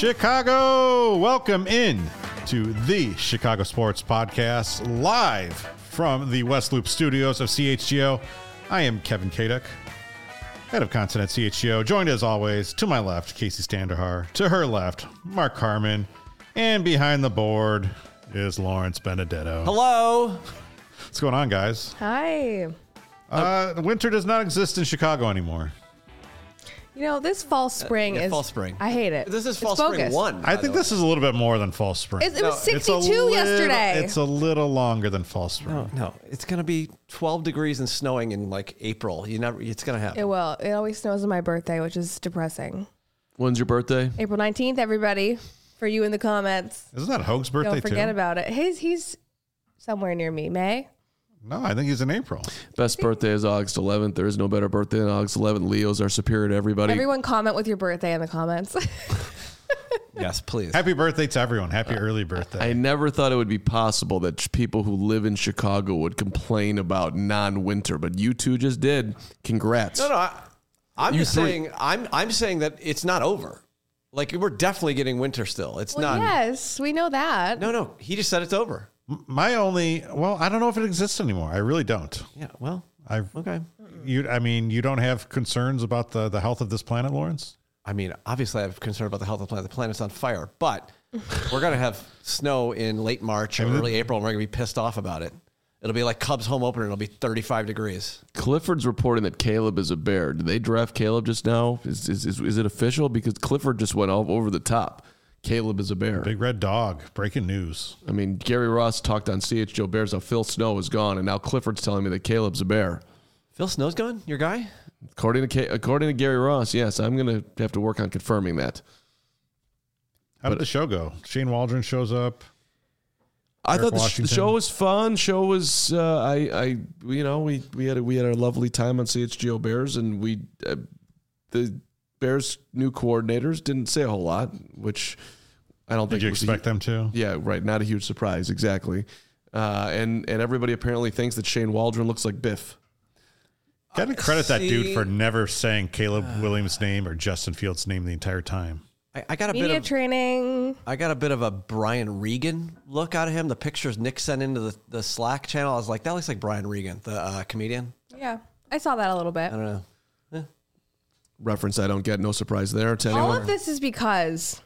Chicago, welcome in to the Chicago Sports Podcast, live from the West Loop studios of CHGO. I am Kevin Kaduk, head of content at CHGO, joined as always to my left, Casey Standerhar, to her left, Mark Carman, and behind the board is Lawrence Benedetto. Hello. What's going on, guys? Hi. Winter does not exist in Chicago anymore. You know, this fall spring is... Fall spring. I hate it. This is fall It's spring bogus. 1. I think this is a little bit more than fall spring. It was 62 yesterday. It's a little longer than fall spring. No, it's going to be 12 degrees and snowing in like April. It's going to happen. It will. It always snows on my birthday, which is depressing. When's your birthday? April 19th, everybody. For you in the comments. Isn't that Hoag's birthday Don't forget too? about it. He's somewhere near me. May? No, I think he's in April. Best birthday is August 11th. There is no better birthday than August 11th. Leos are superior to everybody. Everyone comment with your birthday in the comments. Yes, please. Happy birthday to everyone. Happy early birthday. I never thought it would be possible that people who live in Chicago would complain about non-winter, but you two just did. Congrats. No, I'm You just three. saying. I'm saying that it's not over. Like we're definitely getting winter still. It's Well, not. yes, we know that. No. He just said it's over. I don't know if it exists anymore. I really don't. Yeah. Well. Okay. Okay. You don't have concerns about the health of this planet, Lawrence? I mean, obviously, I have concern about the health of the planet. The planet's on fire, but we're gonna have snow in late March or early April, and we're gonna be pissed off about it. It'll be like Cubs home opener. It'll be 35 degrees. Clifford's reporting that Caleb is a bear. Did they draft Caleb just now? Is it official? Because Clifford just went all over the top. Caleb is a bear. Big red dog. Breaking news. I mean, Gary Ross talked on CHGO Bears how Phil Snow is gone, and now Clifford's telling me that Caleb's a bear. Phil Snow's gone. Your guy. According to Gary Ross, yes, I'm going to have to work on confirming that. How did the show go? Shane Waldron shows up. I Eric thought the Washington. show was fun. Show was we had a lovely time on CHGO Bears, and the Bears new coordinators didn't say a whole lot, which I don't think. Did you was expect them to? Yeah, right. Not a huge surprise, exactly. And everybody apparently thinks that Shane Waldron looks like Biff. Got to credit that dude for never saying Caleb Williams' name or Justin Fields' name the entire time. I got a Media bit of training. I got a bit of a Brian Regan look out of him. The pictures Nick sent into the Slack channel, I was like, that looks like Brian Regan, the comedian. Yeah, I saw that a little bit. I don't know. Reference I don't get. No surprise there to anyone. All of this is because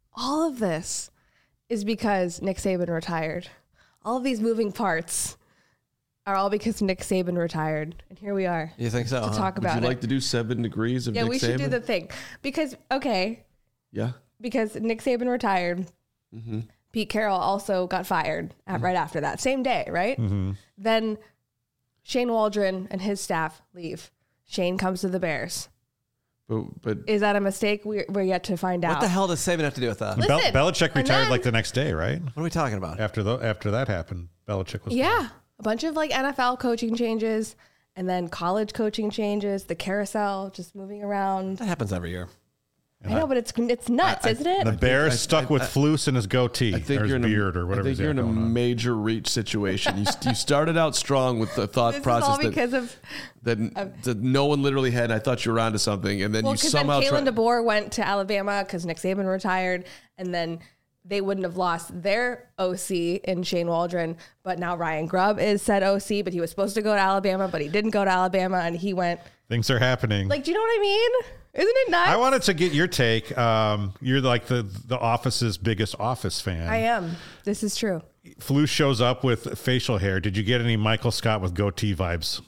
Nick Saban retired. All of these moving parts are all because Nick Saban retired. And here we are You think so? to huh? talk Would about you it. like to do 7 degrees of Yeah, Nick we should do Saban? the thing. Because Nick Saban retired. Mm-hmm. Pete Carroll also got fired right after that. Same day, right? Mm-hmm. Then Shane Waldron and his staff leave. Shane comes to the Bears. But Is that a mistake? We're yet to find out. What the hell does Saban have to do with that? Listen, Belichick and retired then- like the next day, right? What are we talking about? After that happened, Belichick was Yeah. A bunch of like NFL coaching changes and then college coaching changes, the carousel just moving around. That happens every year. I know, but it's nuts, isn't it? The Bears stuck with Flus in his goaatee I think or his you're in beard or whatever. I think you're in a going on. major reach situation. You started out strong with the thought This is process all because of that no one literally had. I thought you were onto something, and then you because then somehow Kalen DeBoer went to Alabama because Nick Saban retired, and then they wouldn't have lost their OC in Shane Waldron, but now Ryan Grubb is said OC, but he was supposed to go to Alabama, but he didn't go to Alabama, and he went. Things are happening. Like, do you know what I mean? Isn't it nuts? I wanted to get your take. You're like the Office's biggest Office fan. I am. This is true. Flus shows up with facial hair. Did you get any Michael Scott with goatee vibes?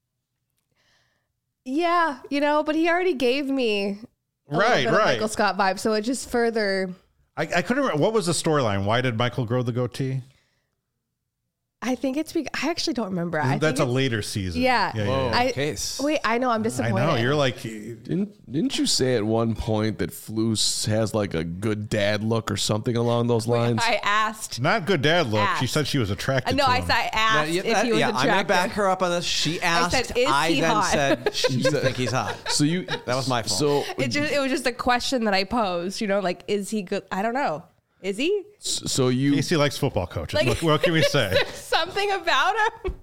Yeah, but he already gave me a little bit of Michael Scott vibe, so it just further. I couldn't remember. What was the storyline? Why did Michael grow the goatee? I think it's because I actually don't remember. That's a later season. Yeah. Whoa. Case. Wait, I know. I'm I disappointed. know. You're like, Didn't you say at one point that Flus has like a good dad look or something along those lines? I asked. not good dad look. She Asked. said she was attracted No, to I him. asked if he was I'm going to attractive. back her up on this. She asked. said, "Is he then hot?" said, you think he's hot. So you That was my fault. So It was just a question that I posed. Like, is he good? I don't know. Is he? so you Casey likes football coaches. Like- What can we say? Something about him?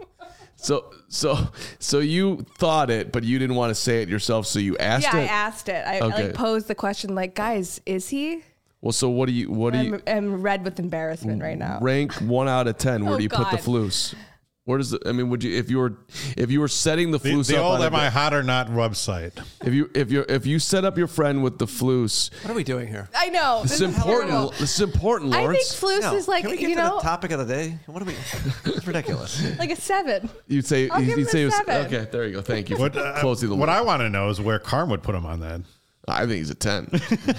so you thought it, but you didn't want to say it yourself, so you asked Yeah, it. I asked it. I Okay. posed the question, like, guys, is he? Well, so what do you I'm red with embarrassment right now. rank 1 out of 10? Where do you put the God. Flus? Where does would you if you were setting the Flus The up old on Am I Hot or Not website. if you set up your friend with the Flus, What are we doing here? I know. this is important. This is important, I think Lawrence. Flus No, is like, can we get to the topic of the day? What are we? It's ridiculous. like a 7. You'd say I'll give you'd him say a it was, 7. okay. There you go. Thank you. What, for closing the what loop. I want to know is where Carm would put him on that. I think he's a 10.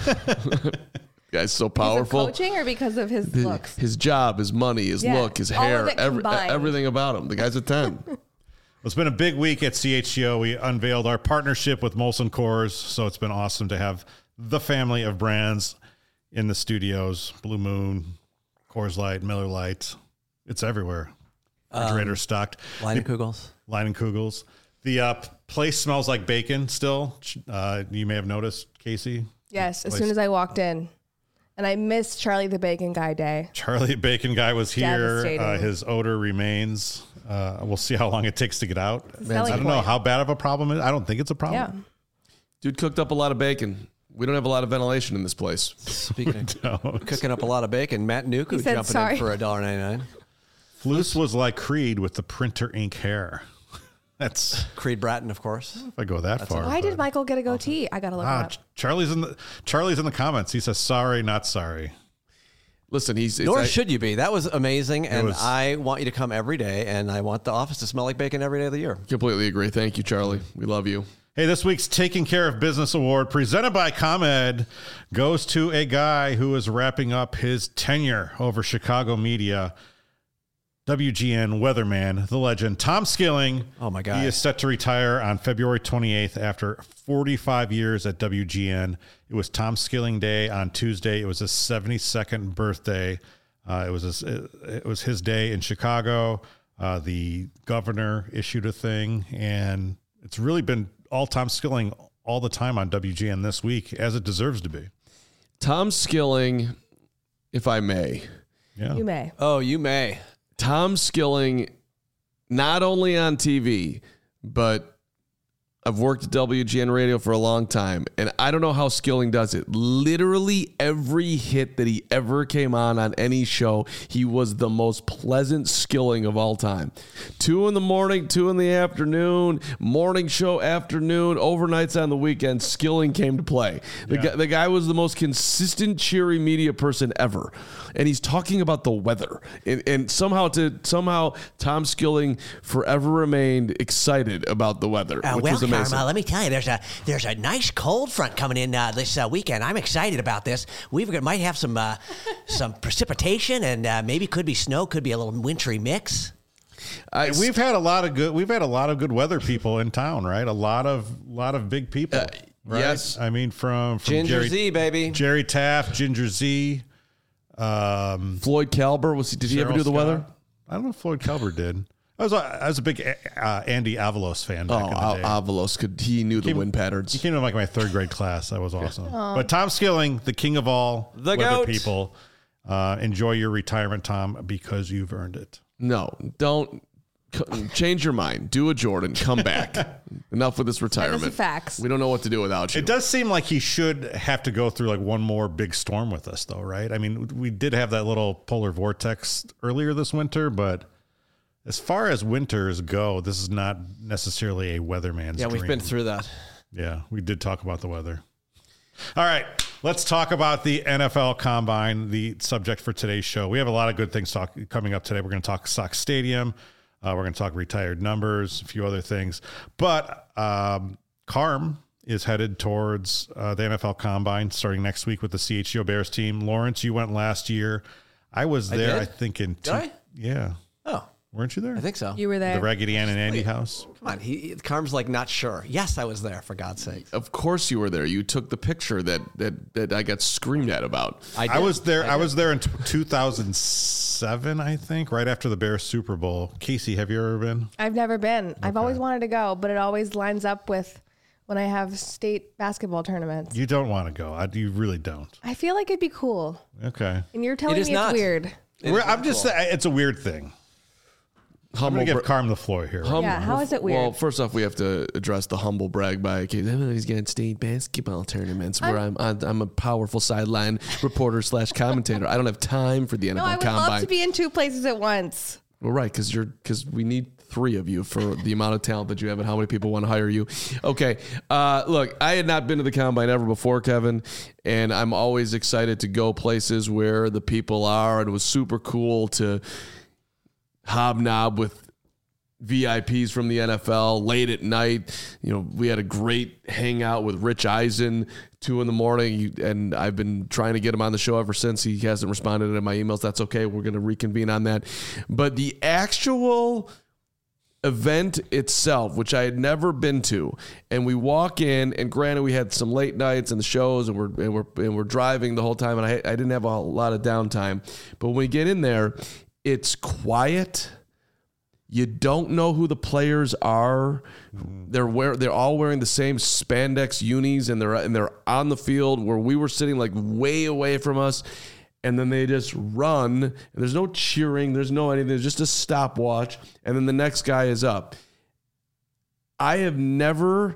Guy's so Because of powerful. coaching or because of his looks? His job, his money, his Yeah, look, his all of hair, it combined. everything about him. The guy's a 10. It's been a big week at CHGO. We unveiled our partnership with Molson Coors, so it's been awesome to have the family of brands in the studios. Blue Moon, Coors Light, Miller Lite. It's everywhere. Refrigerator stocked. Leinenkugels. Leinenkugels. The place smells like bacon still. You may have noticed, Casey. Yes, as soon as I walked in. And I missed Charlie the Bacon Guy Day. Charlie the Bacon Guy was here. Devastating. His odor remains. We'll see how long it takes to get out. Selling I don't know point. how bad of a problem it is. I don't think it's a problem. Yeah. Dude cooked up a lot of bacon. We don't have a lot of ventilation in this place. Speaking of cooking up a lot of bacon, Matt Nuku He said jumping sorry. in for $1.99. Flus was like Creed with the printer ink hair. That's Creed Bratton, of course. if I go that far. Why did Michael get a goatee? I gotta look it up. Charlie's in the comments. He says sorry, not sorry. Listen, Nor should you be. That was amazing, and was- I want you to come every day, and I want the office to smell like bacon every day of the year. completely agree. Thank you, Charlie. We love you. Hey, this week's Taking Care of Business Award, presented by ComEd, goes to a guy who is wrapping up his tenure over Chicago media. WGN weatherman, the legend, Tom Skilling. Oh, my God. He is set to retire on February 28th after 45 years at WGN. It was Tom Skilling Day on Tuesday. It was his 72nd birthday. It was his day in Chicago. The governor issued a thing, and it's really been all Tom Skilling all the time on WGN this week, as it deserves to be. Tom Skilling, if I may. Yeah. You may. Oh, you may. Tom Skilling, not only on TV, but I've worked at WGN Radio for a long time, and I don't know how Skilling does it. Literally every hit that he ever came on any show, he was the most pleasant Skilling of all time. 2 in the morning, 2 in the afternoon, morning show, afternoon, overnights on the weekend, Skilling came to play. The guy was the most consistent, cheery media person ever. And he's talking about the weather. And somehow Tom Skilling forever remained excited about the weather, which was amazing. Carm, let me tell you, there's a nice cold front coming in this weekend. I'm excited about this. We might have some precipitation and maybe could be snow, could be a little wintry mix. We've had a lot of good weather people in town, right? A lot of big people. Right? Yes. I mean from Ginger Jerry, Z, baby. Jerry Taft, Ginger Z, Floyd Calber, did he ever Cheryl do the weather? Scott. I don't know if Floyd Calber did. I was a big Andy Avalos fan back in the day. Avalos, he knew the wind patterns. He came to like my 3rd grade class. That was awesome. But Tom Skilling, the king of all The weather goat. people, enjoy your retirement, Tom, because you've earned it. No, don't change your mind. Do a Jordan. Come back. Enough with this retirement. That is facts. We don't know what to do without you. It does seem like he should have to go through like one more big storm with us, though, right? I mean, we did have that little polar vortex earlier this winter, but as far as winters go, this is not necessarily a weatherman's Yeah, we've dream. been through that. Yeah, we did talk about the weather. All right, let's talk about the NFL Combine, the subject for today's show. We have a lot of good things coming up today. We're going to talk Sox Stadium. We're going to talk retired numbers, a few other things. But Carm is headed towards the NFL Combine starting next week with the CHGO Bears team. Lawrence, you went last year. I was there, did? I think, in Did I? Yeah. Oh, Weren't you there? I think so. You were there. The Raggedy Ann and Andy house. Come on. Carm's like not sure. Yes, I was there, for God's sake. Of course you were there. You took the picture that I got screamed at about. I was there. I was there in 2007, I think, right after the Bears Super Bowl. Casey, have you ever been? I've never been. I've always wanted to go, but it always lines up with when I have state basketball tournaments. You don't want to go. You really don't. I feel like it'd be cool. Okay. And you're telling is me not. it's weird. I'm just saying, it's a weird thing. I'm going to give Carm the floor here. How is it weird? Well, first off, we have to address the humble brag by he's getting state basketball tournaments where I'm a powerful sideline reporter / commentator. I don't have time for the NFL I would Combine. love to be in 2 places at once. Well, right, because we need 3 of you for the amount of talent that you have and how many people want to hire you. Okay, look, I had not been to the Combine ever before, Kevin, and I'm always excited to go places where the people are, and it was super cool to hobnob with VIPs from the NFL late at night. You know, we had a great hangout with Rich Eisen, 2 a.m, and I've been trying to get him on the show ever since. He hasn't responded to my emails. That's okay. We're going to reconvene on that. But the actual event itself, which I had never been to, and we walk in, and granted, we had some late nights and the shows, and we're driving the whole time, and I didn't have a lot of downtime. But when we get in there, it's quiet. You don't know who the players are. They're all wearing the same spandex unis, and they're on the field where we were sitting like way away from us. And then they just run. And there's no cheering. There's no anything. There's just a stopwatch. And then the next guy is up. I have been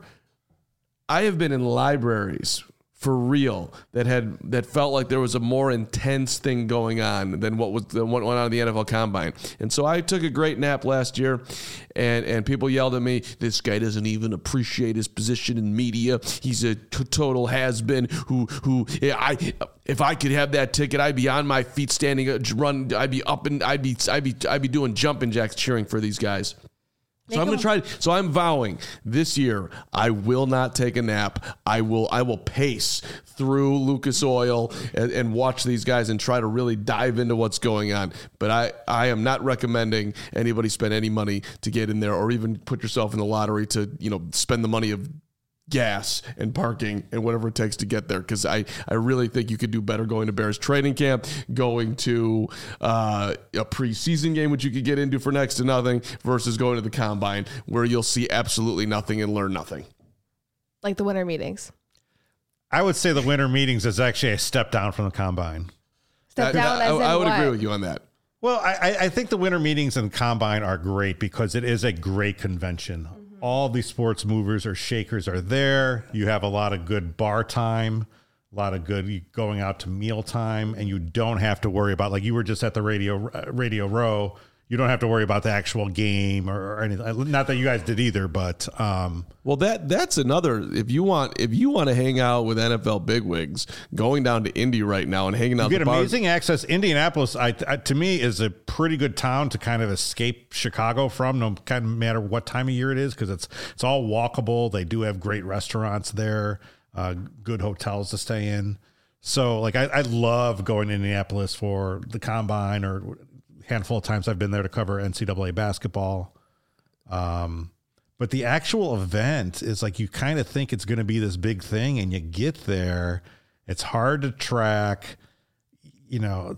in libraries for real that felt like there was a more intense thing going on than what went on in the NFL Combine. And so I took a great nap last year, and people yelled at me, "This guy doesn't even appreciate his position in media. He's a total has-been if I could have that ticket, I'd be on my feet standing, I'd be up, and I'd be doing jumping jacks cheering for these guys." So I'm going to try. So I'm vowing this year I will not take a nap. I will pace through Lucas Oil and watch these guys and try to really dive into what's going on. But I am not recommending anybody spend any money to get in there, or even put yourself in the lottery to spend the money of gas and parking and whatever it takes to get there, because I really think you could do better going to Bears training camp, going to a preseason game, which you could get into for next to nothing, versus going to the Combine, where you'll see absolutely nothing and learn nothing. Like the winter meetings. I would say the winter meetings is actually a step down from the Combine. I would agree with you on that. Well, I think the winter meetings and Combine are great because it is a great convention. Mm-hmm. All these sports movers or shakers are there. You have a lot of good bar time, a lot of good going out to meal time, and you don't have to worry about, like you were just at the Radio Row, you don't have to worry about the actual game or anything. Not that you guys did either, but well, that's another. If you want to hang out with NFL bigwigs, going down to Indy right now and hanging out, you get amazing access. Indianapolis, to me, is a pretty good town to kind of escape Chicago from, no kind of matter what time of year it is, because it's all walkable. They do have great restaurants there, good hotels to stay in. So, like, I love going to Indianapolis for the Combine, or handful of times I've been there to cover NCAA basketball. But the actual event is like, you kind of think it's going to be this big thing, and you get there, it's hard to track. Adam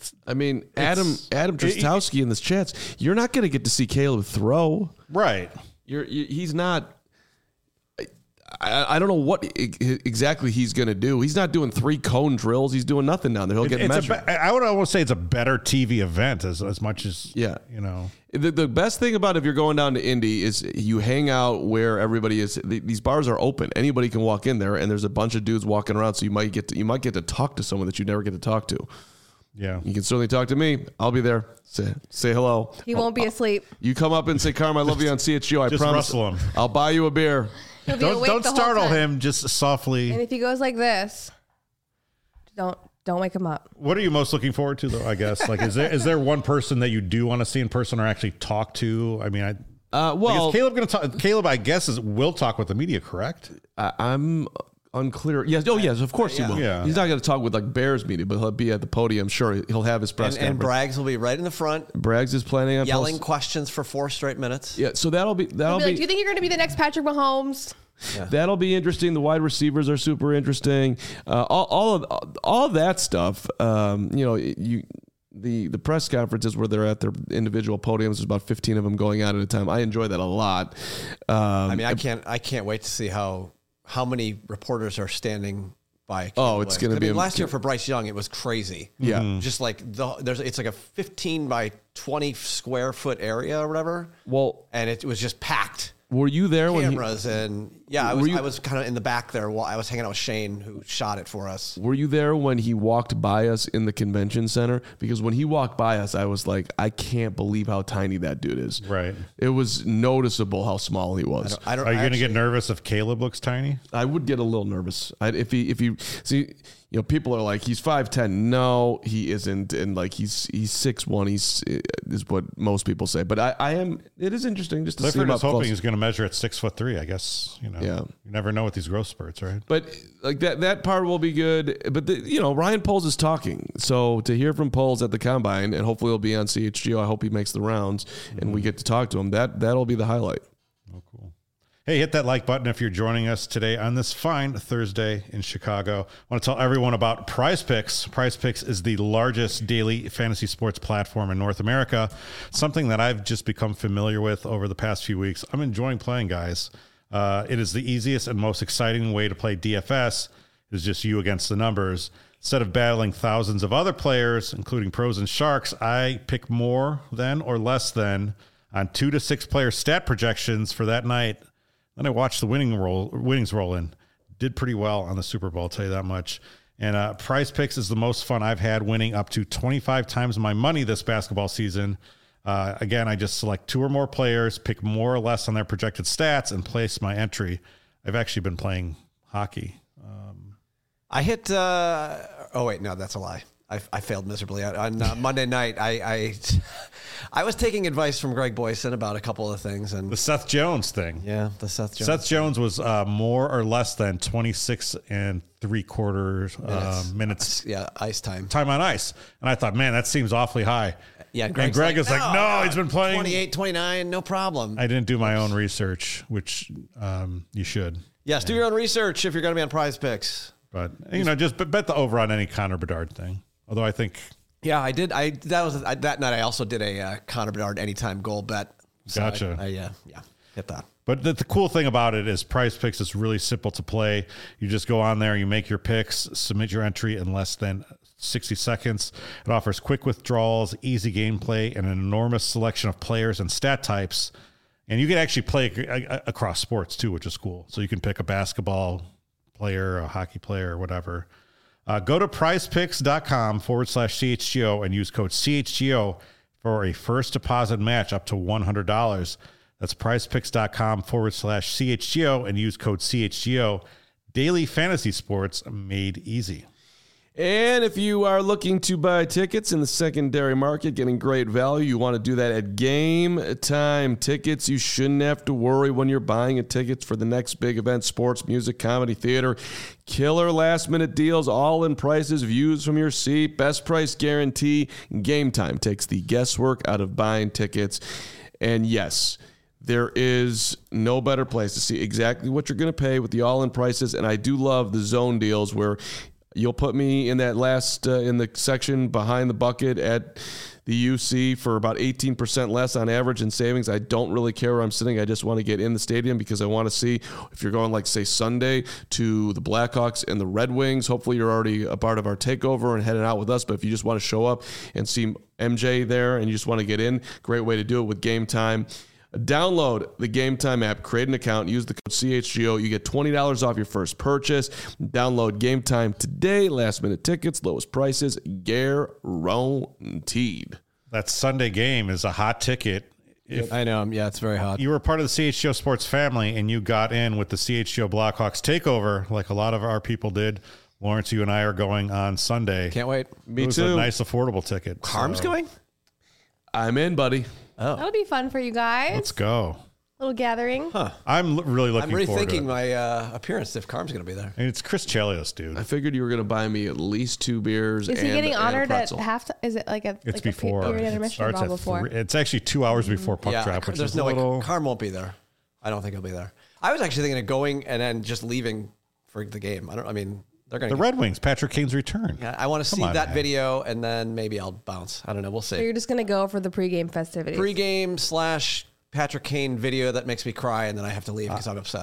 Trostowski in this chats, you're not going to get to see Caleb throw. Right. He's not. I don't know what exactly he's going to do. He's not doing 3 cone drills. He's doing nothing down there. He'll get measured. I would almost say it's a better TV event as much as, The best thing about if you're going down to Indy is you hang out where everybody is. These bars are open. Anybody can walk in there, and there's a bunch of dudes walking around, so you might get to talk to someone that you never get to talk to. Yeah. You can certainly talk to me. I'll be there. Say hello. He won't be asleep. You come up and say, "Carm, I love you" on CHGO. I just promise. Rustle him. I'll buy you a beer. Don't startle him, just softly. And if he goes like this, don't wake him up. What are you most looking forward to, though, I guess? Like, is there one person that you do want to see in person or actually talk to? I mean, is Caleb going to talk? Caleb, I guess, will talk with the media, correct? I'm unclear. Yes. Oh, yes. Of course he will. Yeah. He's not going to talk with like Bears media, but he'll be at the podium. Sure, he'll have his press conference. And Braggs will be right in the front. Braggs is planning on yelling questions for 4 straight minutes. Yeah. So that'll be. Do you think you're going to be the next Patrick Mahomes? Yeah. That'll be interesting. The wide receivers are super interesting. All of that stuff. The press conferences where they're at their individual podiums, there's about 15 of them going on at a time. I enjoy that a lot. I can't wait to see how many reporters are standing buy. Oh, it's going to be last year for Bryce Young, it was crazy. Yeah. Just like it's like a 15 by 20 square foot area or whatever. Well, and it was just packed. Were you there when cameras and I was kind of in the back there while I was hanging out with Shane, who shot it for us. Were you there when he walked by us in the convention center? Because when he walked by us, I was like, I can't believe how tiny that dude is. Right. It was noticeable how small he was. Are you going to get nervous if Caleb looks tiny? I would get a little nervous. If he see, you know, people are like, he's 5'10". No, he isn't, and like he's 6'1". Is what most people say. But I am. It is interesting just to see Clifford him is up hoping close. he's going to measure at 6'3". I guess Yeah. You never know with these growth spurts, right? But like that part will be good. But Ryan Poles is talking, so to hear from Poles at the combine, and hopefully he'll be on CHGO. I hope he makes the rounds and we get to talk to him. That'll be the highlight. Oh, cool. Hey, hit that like button if you're joining us today on this fine Thursday in Chicago. I want to tell everyone about Prize Picks. Prize Picks is the largest daily fantasy sports platform in North America, something that I've just become familiar with over the past few weeks. I'm enjoying playing, guys. It is the easiest and most exciting way to play DFS. It is just you against the numbers. Instead of battling thousands of other players, including pros and sharks, I pick more than or less than on 2 to 6 player stat projections for that night. Then I watched the winnings roll in. Did pretty well on the Super Bowl, I'll tell you that much. And Prize Picks is the most fun I've had, winning up to 25 times my money this basketball season. Again, I just select 2 or more players, pick more or less on their projected stats, and place my entry. I've actually been playing hockey. I hit. Oh wait, no, that's a lie. I failed miserably on Monday night. I was taking advice from Greg Boyson about a couple of things, and The Seth Jones thing. yeah, the Seth Jones. Seth Jones was more or less than 26 3/4 minutes. Yeah, ice time. Time on ice. And I thought, man, that seems awfully high. Yeah, and Greg's Greg is like, no, he's been playing 28, 29, no problem. I didn't do my own research, which you should. Yes, do your own research if you're going to be on Prize Picks. But, just bet the over on any Connor Bedard thing. Although I think... Yeah, I did. That night I also did a Connor Bedard anytime goal bet. So Gotcha. I hit that. But the cool thing about it is Prize Picks is really simple to play. You just go on there, you make your picks, submit your entry in less than 60 seconds. It offers quick withdrawals, easy gameplay, and an enormous selection of players and stat types. And you can actually play across sports too, which is cool. So you can pick a basketball player, a hockey player, or whatever. Go to prizepicks.com/CHGO and use code CHGO for a first deposit match up to $100. That's prizepicks.com/CHGO and use code CHGO. Daily fantasy sports made easy. And if you are looking to buy tickets in the secondary market, getting great value, you want to do that at Game Time Tickets. You shouldn't have to worry when you're buying a ticket for the next big event, sports, music, comedy, theater. Killer last-minute deals, all-in prices, views from your seat, best price guarantee. Game Time takes the guesswork out of buying tickets. And yes, there is no better place to see exactly what you're going to pay with the all-in prices. And I do love the zone deals where you'll put me in that last, in the section behind the bucket at the UC for about 18% less on average in savings. I don't really care where I'm sitting. I just want to get in the stadium because I want to see if you're going, like, say, Sunday to the Blackhawks and the Red Wings. Hopefully you're already a part of our takeover and heading out with us. But if you just want to show up and see MJ there and you just want to get in, great way to do it with Game Time. Download the Game Time app, create an account, use the code CHGO. You get $20 off your first purchase. Download Game Time today. Last minute tickets, lowest prices, guaranteed. That Sunday game is a hot ticket. If I know. Yeah, it's very hot. you were part of the CHGO Sports family and you got in with the CHGO Blackhawks takeover, like a lot of our people did, Lawrence, you and I are going on Sunday. Can't wait. Me It was too. a nice, affordable ticket. Harm's going? I'm in, buddy. That'll be fun for you guys. Let's go. Little gathering. I'm really I'm looking forward to rethinking it. my appearance if Carm's going to be there. And it's Chris Chelios, dude. I figured you were going to buy me at least 2 beers. Is he and- getting and a honored at pretzel. halftime? Is it like a It's like before. a period It intermission starts or at before? 3. It's actually 2 hours before puck drop, which there's is no a little... way. Carm won't be there. I don't think he'll be there. I was actually thinking of going and then just leaving for the game. They're going The to. Red Wings, Patrick Kane's return. Yeah, I want to see on, that man. video and then maybe I'll bounce. I don't know. We'll So see. you're just gonna go for the pregame festivities. Pre-game / Patrick Kane video that makes me cry and then I have to leave because I'm upset.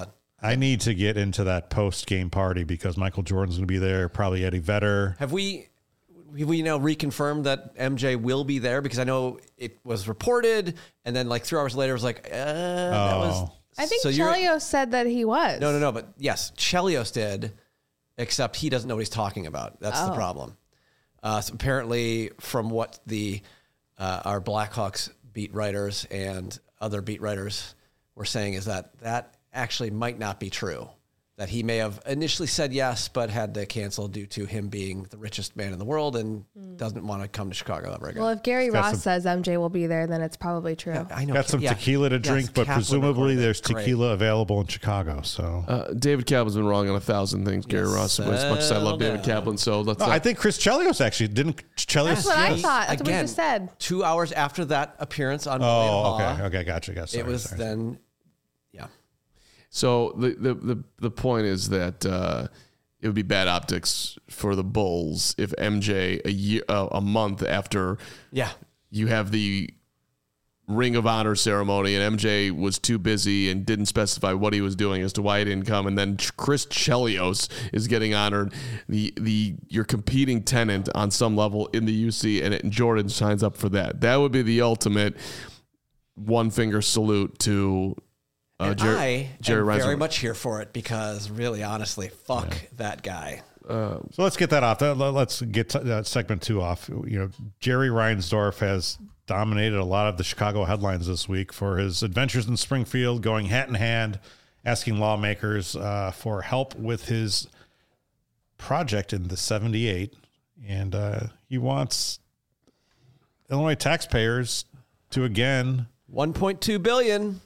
I need to get into that post-game party because Michael Jordan's going to be there, probably Eddie Vedder. Have we now reconfirmed that MJ will be there? Because I know it was reported, and then like 3 hours later, it was like, that was. I think so Chelios said that he was. No. But yes, Chelios did, except he doesn't know what he's talking about. That's the problem. So apparently, from what our Blackhawks beat writers and other beat writers were saying, is that actually might not be true. That he may have initially said yes, but had to cancel due to him being the richest man in the world and doesn't want to come to Chicago ever again. Well, if Gary Ross says MJ will be there, then it's probably true. Yeah, I know. Got some tequila to drink, but presumably there's tequila available in Chicago. So David Kaplan's been wrong on 1,000 things. Gary Ross, as much as I love David Kaplan, so let's. I think Chris Chelios actually didn't. Chelios. That's what I thought. That's what we just said. 2 hours after that appearance on. Okay, gotcha. Sorry, it was then. Yeah. So the point is that it would be bad optics for the Bulls if MJ a month after you have the Ring of Honor ceremony and MJ was too busy and didn't specify what he was doing as to why he didn't come, and then Chris Chelios is getting honored, your competing tenant on some level in the UC, and Jordan signs up for that. That would be the ultimate one finger salute to. Jerry am Reinsdorf. very much here for it because really, honestly, fuck that guy. So let's get that off. Let's get segment 2 off. Jerry Reinsdorf has dominated a lot of the Chicago headlines this week for his adventures in Springfield, going hat in hand, asking lawmakers for help with his project in the 78. And he wants Illinois taxpayers to, again, $1.2 billion.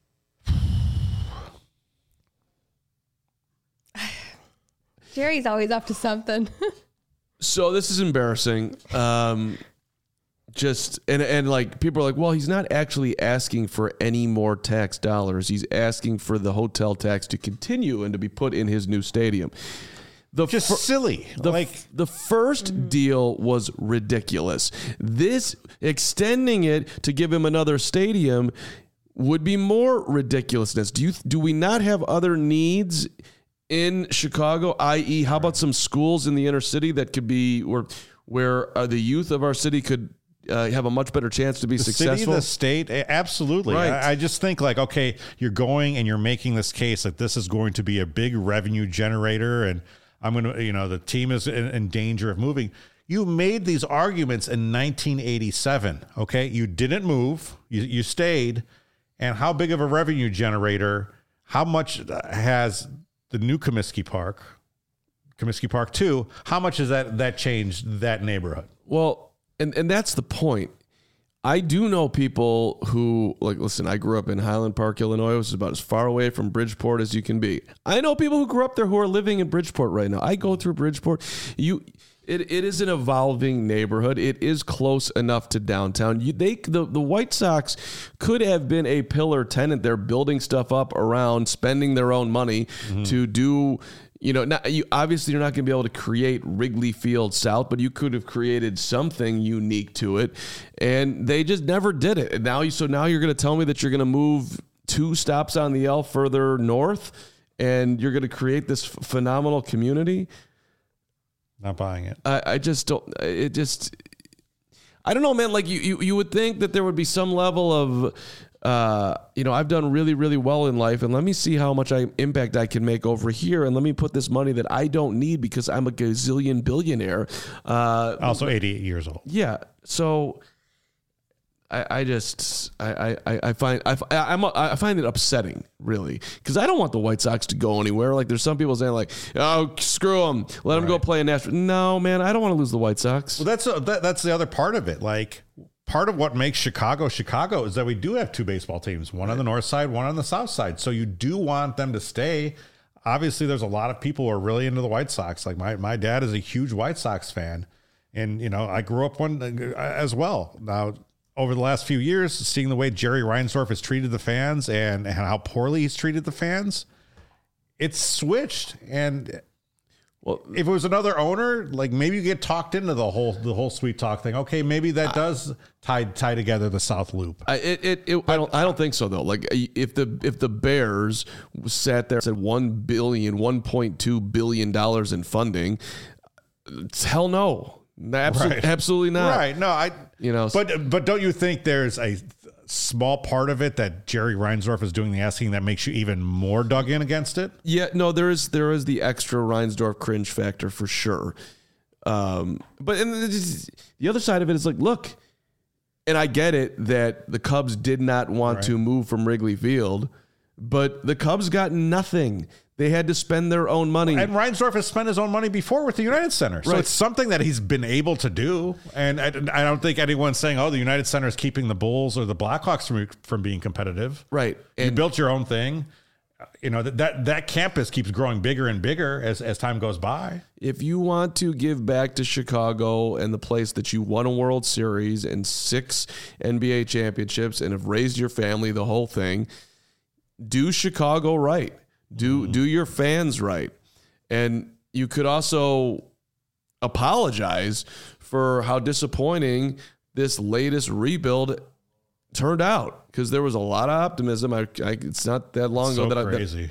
Jerry's always up to something. So this is embarrassing. Just like people are like, well, he's not actually asking for any more tax dollars. He's asking for the hotel tax to continue and to be put in his new stadium. Silly. The first deal was ridiculous. This extending it to give him another stadium would be more ridiculousness. Do we not have other needs in Chicago, i.e., how about some schools in the inner city that could be where the youth of our city could have a much better chance to be successful? City, the state, absolutely. Right. I just think okay, you're going and you're making this case like this is going to be a big revenue generator, and I'm going to, the team is in danger of moving. You made these arguments in 1987. Okay, you didn't move, you stayed, and how big of a revenue generator? How much has the new Comiskey Park 2, how much has that changed that neighborhood? Well, and that's the point. I do know people who, listen, I grew up in Highland Park, Illinois, which is about as far away from Bridgeport as you can be. I know people who grew up there who are living in Bridgeport right now. I go through Bridgeport. It is an evolving neighborhood. It is close enough to downtown. The White Sox could have been a pillar tenant. They're building stuff up around, spending their own money to do. Obviously you're not going to be able to create Wrigley Field South, but you could have created something unique to it, and they just never did it. And now you're going to tell me that you're going to move 2 stops on the L further north, and you're going to create this phenomenal community. Not buying it. I just don't. It just. I don't know, man. Like you would think that there would be some level of, I've done really, really well in life, and let me see how much impact I can make over here, and let me put this money that I don't need because I'm a gazillion billionaire. Also 88 years old. Yeah. So. I find it upsetting, really, because I don't want the White Sox to go anywhere. Like, there's some people saying, oh, screw them, let them go play in Nashville. No, man, I don't want to lose the White Sox. Well, that's the other part of it. Like, part of what makes Chicago is that we do have 2 baseball teams, one on the north side, one on the south side. So you do want them to stay. Obviously, there's a lot of people who are really into the White Sox. Like my dad is a huge White Sox fan, and I grew up one as well. Now, over the last few years, seeing the way Jerry Reinsdorf has treated the fans and how poorly he's treated the fans, it's switched. And Well, if it was another owner, like maybe you get talked into the whole sweet talk thing. Okay, maybe that does tie together the South Loop. I don't think so though. Like if the Bears sat there and said $1.2 billion in funding, hell no, absolutely not. Right? No, You know, but don't you think there's a small part of it that Jerry Reinsdorf is doing the asking that makes you even more dug in against it? Yeah, no, there is the extra Reinsdorf cringe factor for sure. But the other side of it is like, look, and I get it that the Cubs did not want to move from Wrigley Field, but the Cubs got nothing. They had to spend their own money. And Reinsdorf has spent his own money before with the United Center. So it's something that he's been able to do. And I don't think anyone's saying, oh, the United Center is keeping the Bulls or the Blackhawks from being competitive. Right. You built your own thing. You know, that campus keeps growing bigger and bigger as time goes by. If you want to give back to Chicago and the place that you won a World Series and 6 NBA championships and have raised your family, the whole thing, do Chicago right. Do your fans right. And you could also apologize for how disappointing this latest rebuild turned out, because there was a lot of optimism. It's not that long ago that crazy.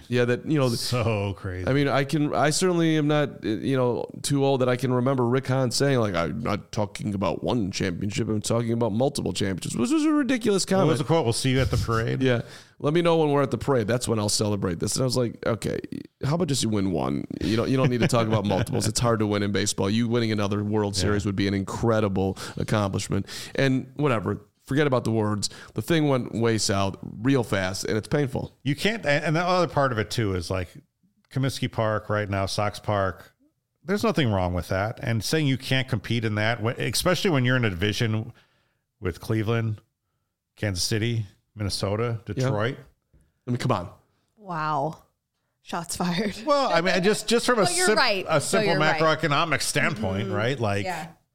So crazy. I mean, I certainly am not, too old that I can remember Rick Hahn saying, like, I'm not talking about one championship, I'm talking about multiple championships, which was a ridiculous comment. What was the quote? We'll see you at the parade. Yeah. Let me know when we're at the parade. That's when I'll celebrate this. And I was like, okay, how about just you win one? You don't need to talk about multiples. It's hard to win in baseball. You winning another World Series would be an incredible accomplishment. And whatever. Forget about the words. The thing went way south real fast, and it's painful. You can't, and the other part of it too is like Comiskey Park right now, Sox Park. There's nothing wrong with that. And saying you can't compete in that, especially when you're in a division with Cleveland, Kansas City, Minnesota, Detroit. I mean, come on. Wow. Shots fired. Well, I mean, just from a simple macroeconomic standpoint, right? Like,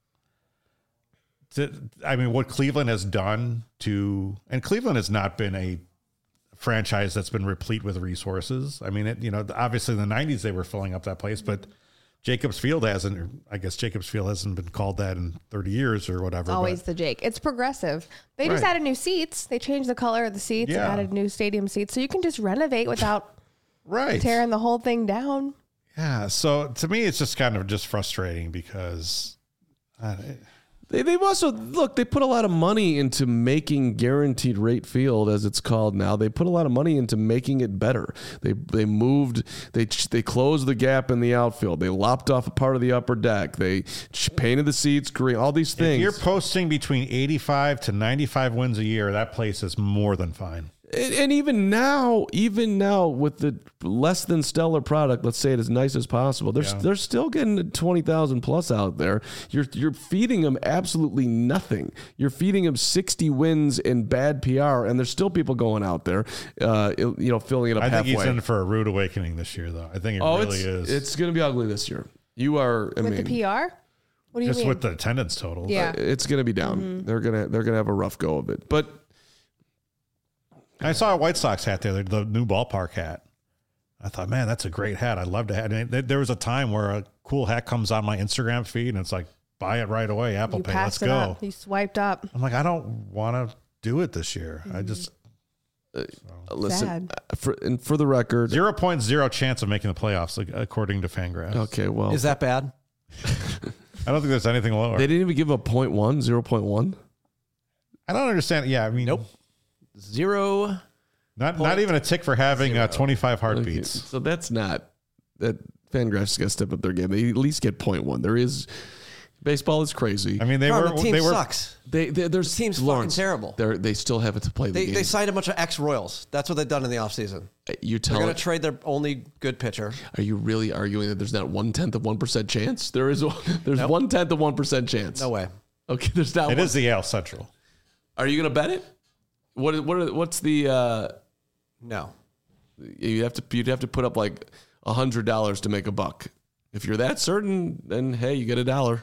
I mean, what Cleveland has done and Cleveland has not been a franchise that's been replete with resources. I mean, obviously in the 90s they were filling up that place, but Jacobs Field hasn't been called that in 30 years or whatever. Always the Jake. It's progressive. They just added new seats. They changed the color of the seats and added new stadium seats. So you can just renovate without tearing the whole thing down. Yeah. So to me, it's just kind of just frustrating because They've also, they put a lot of money into making Guaranteed Rate Field, as it's called now. They put a lot of money into making it better. They closed the gap in the outfield. They lopped off a part of the upper deck. They painted the seats green, all these things. If you're posting between 85 to 95 wins a year, that place is more than fine. And even now with the less than stellar product, let's say it as nice as possible, they're still getting 20,000 plus out there. You're feeding them absolutely nothing. You're feeding them 60 wins in bad PR, and there's still people going out there, filling it up halfway. I think he's in for a rude awakening this year, though. I think it really is. It's going to be ugly this year. You are with the PR. What do you mean? Just with the attendance total. Yeah, it's going to be down. Mm-hmm. They're gonna have a rough go of it, but. I saw a White Sox hat there, the new ballpark hat. I thought, man, that's a great hat. I'd love to have it. There was a time where a cool hat comes on my Instagram feed and it's like, buy it right away. Apple Pay, let's go. You swiped up. I'm like, I don't want to do it this year. I just... listen, for the record... 0.0 chance of making the playoffs, according to Fangraphs. Okay, well... Is that bad? I don't think there's anything lower. They didn't even give a 0.1? I don't understand. Yeah, I mean... Nope. 0. Not even a tick for having 25 heartbeats. Okay, so that's not that. Fangraphs got to step up their game. They at least get 0.1. There is baseball is crazy. I mean, the team sucks. Their team's fucking terrible. They still have it to play the game. They signed a bunch of ex-Royals. That's what they've done in the offseason. They're going to trade their only good pitcher. Are you really arguing that there's not 1/10 of 1% chance? There's 1/10 of 1% chance. No way. Okay, there's not. It is the AL Central. Are you going to bet it? What's the no? You'd have to put up like $100 to make a buck. If you're that certain, then hey, you get $1.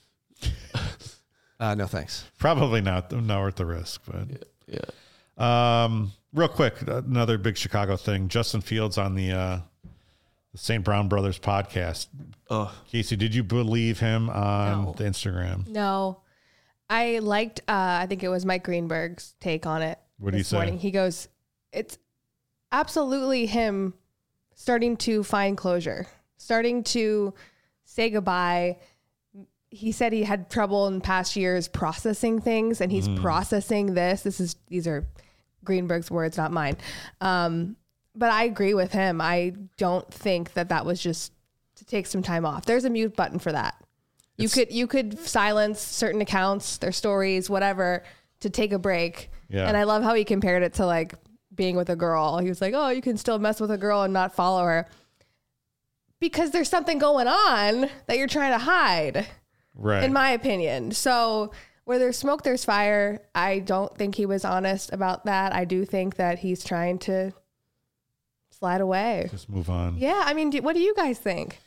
No thanks. Probably not worth the risk, but yeah. Real quick, another big Chicago thing. Justin Fields on the the St. Brown Brothers podcast. Casey, did you believe him on the Instagram? No. I liked, I think it was Mike Greenberg's take on it. What did he say? Morning. He goes, it's absolutely him starting to find closure, starting to say goodbye. He said he had trouble in past years processing things, and he's processing this. These are Greenberg's words, not mine. But I agree with him. I don't think that was just to take some time off. There's a mute button for that. You could silence certain accounts, their stories, whatever, to take a break. Yeah. And I love how he compared it to like being with a girl. He was like, oh, you can still mess with a girl and not follow her because there's something going on that you're trying to hide. Right. In my opinion. So where there's smoke, there's fire. I don't think he was honest about that. I do think that he's trying to slide away. Just move on. Yeah. I mean, what do you guys think?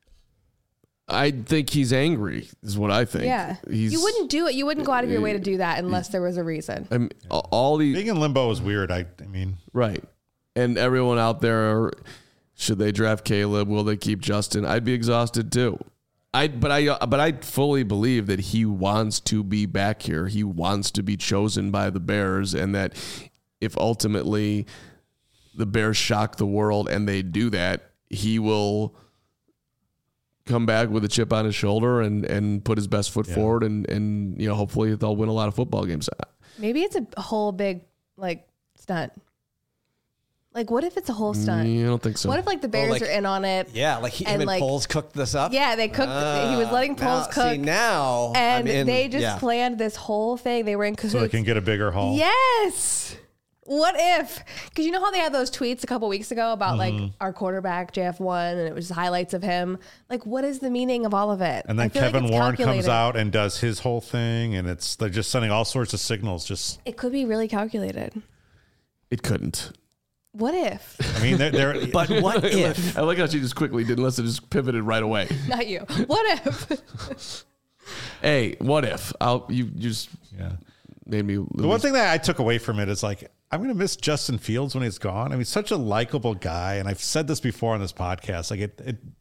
I think he's angry is what I think. Yeah. You wouldn't do it. You wouldn't go out of your way to do that unless there was a reason. I mean, all the Being in limbo is weird. I mean, right. And everyone out there, should they draft Caleb? Will they keep Justin? I'd be exhausted too. But I fully believe that he wants to be back here. He wants to be chosen by the Bears, and that if ultimately the Bears shock the world and they do that, he will come back with a chip on his shoulder and put his best foot forward, and hopefully they'll win a lot of football games. Maybe it's a whole big like stunt. Like, what if it's a whole stunt? I don't think so. What if like the Bears are in on it? Yeah, like him and Poles cooked this up. Yeah, they cooked. He was letting Poles cook. See, now, and they just planned this whole thing. They were in cahoots. so they can get a bigger haul. Yes. What if? Because you know how they had those tweets a couple weeks ago about like our quarterback JF1, and it was highlights of him. Like, what is the meaning of all of it? And then Kevin Warren comes out and does his whole thing, and they're just sending all sorts of signals. Just it could be really calculated. It couldn't. What if? I mean, they're but what if? I like how she just quickly did, unless it just pivoted right away. Not you. What if? Hey, what if? You just made me. The one thing that I took away from it is like, I'm going to miss Justin Fields when he's gone. I mean, such a likable guy. And I've said this before on this podcast. Like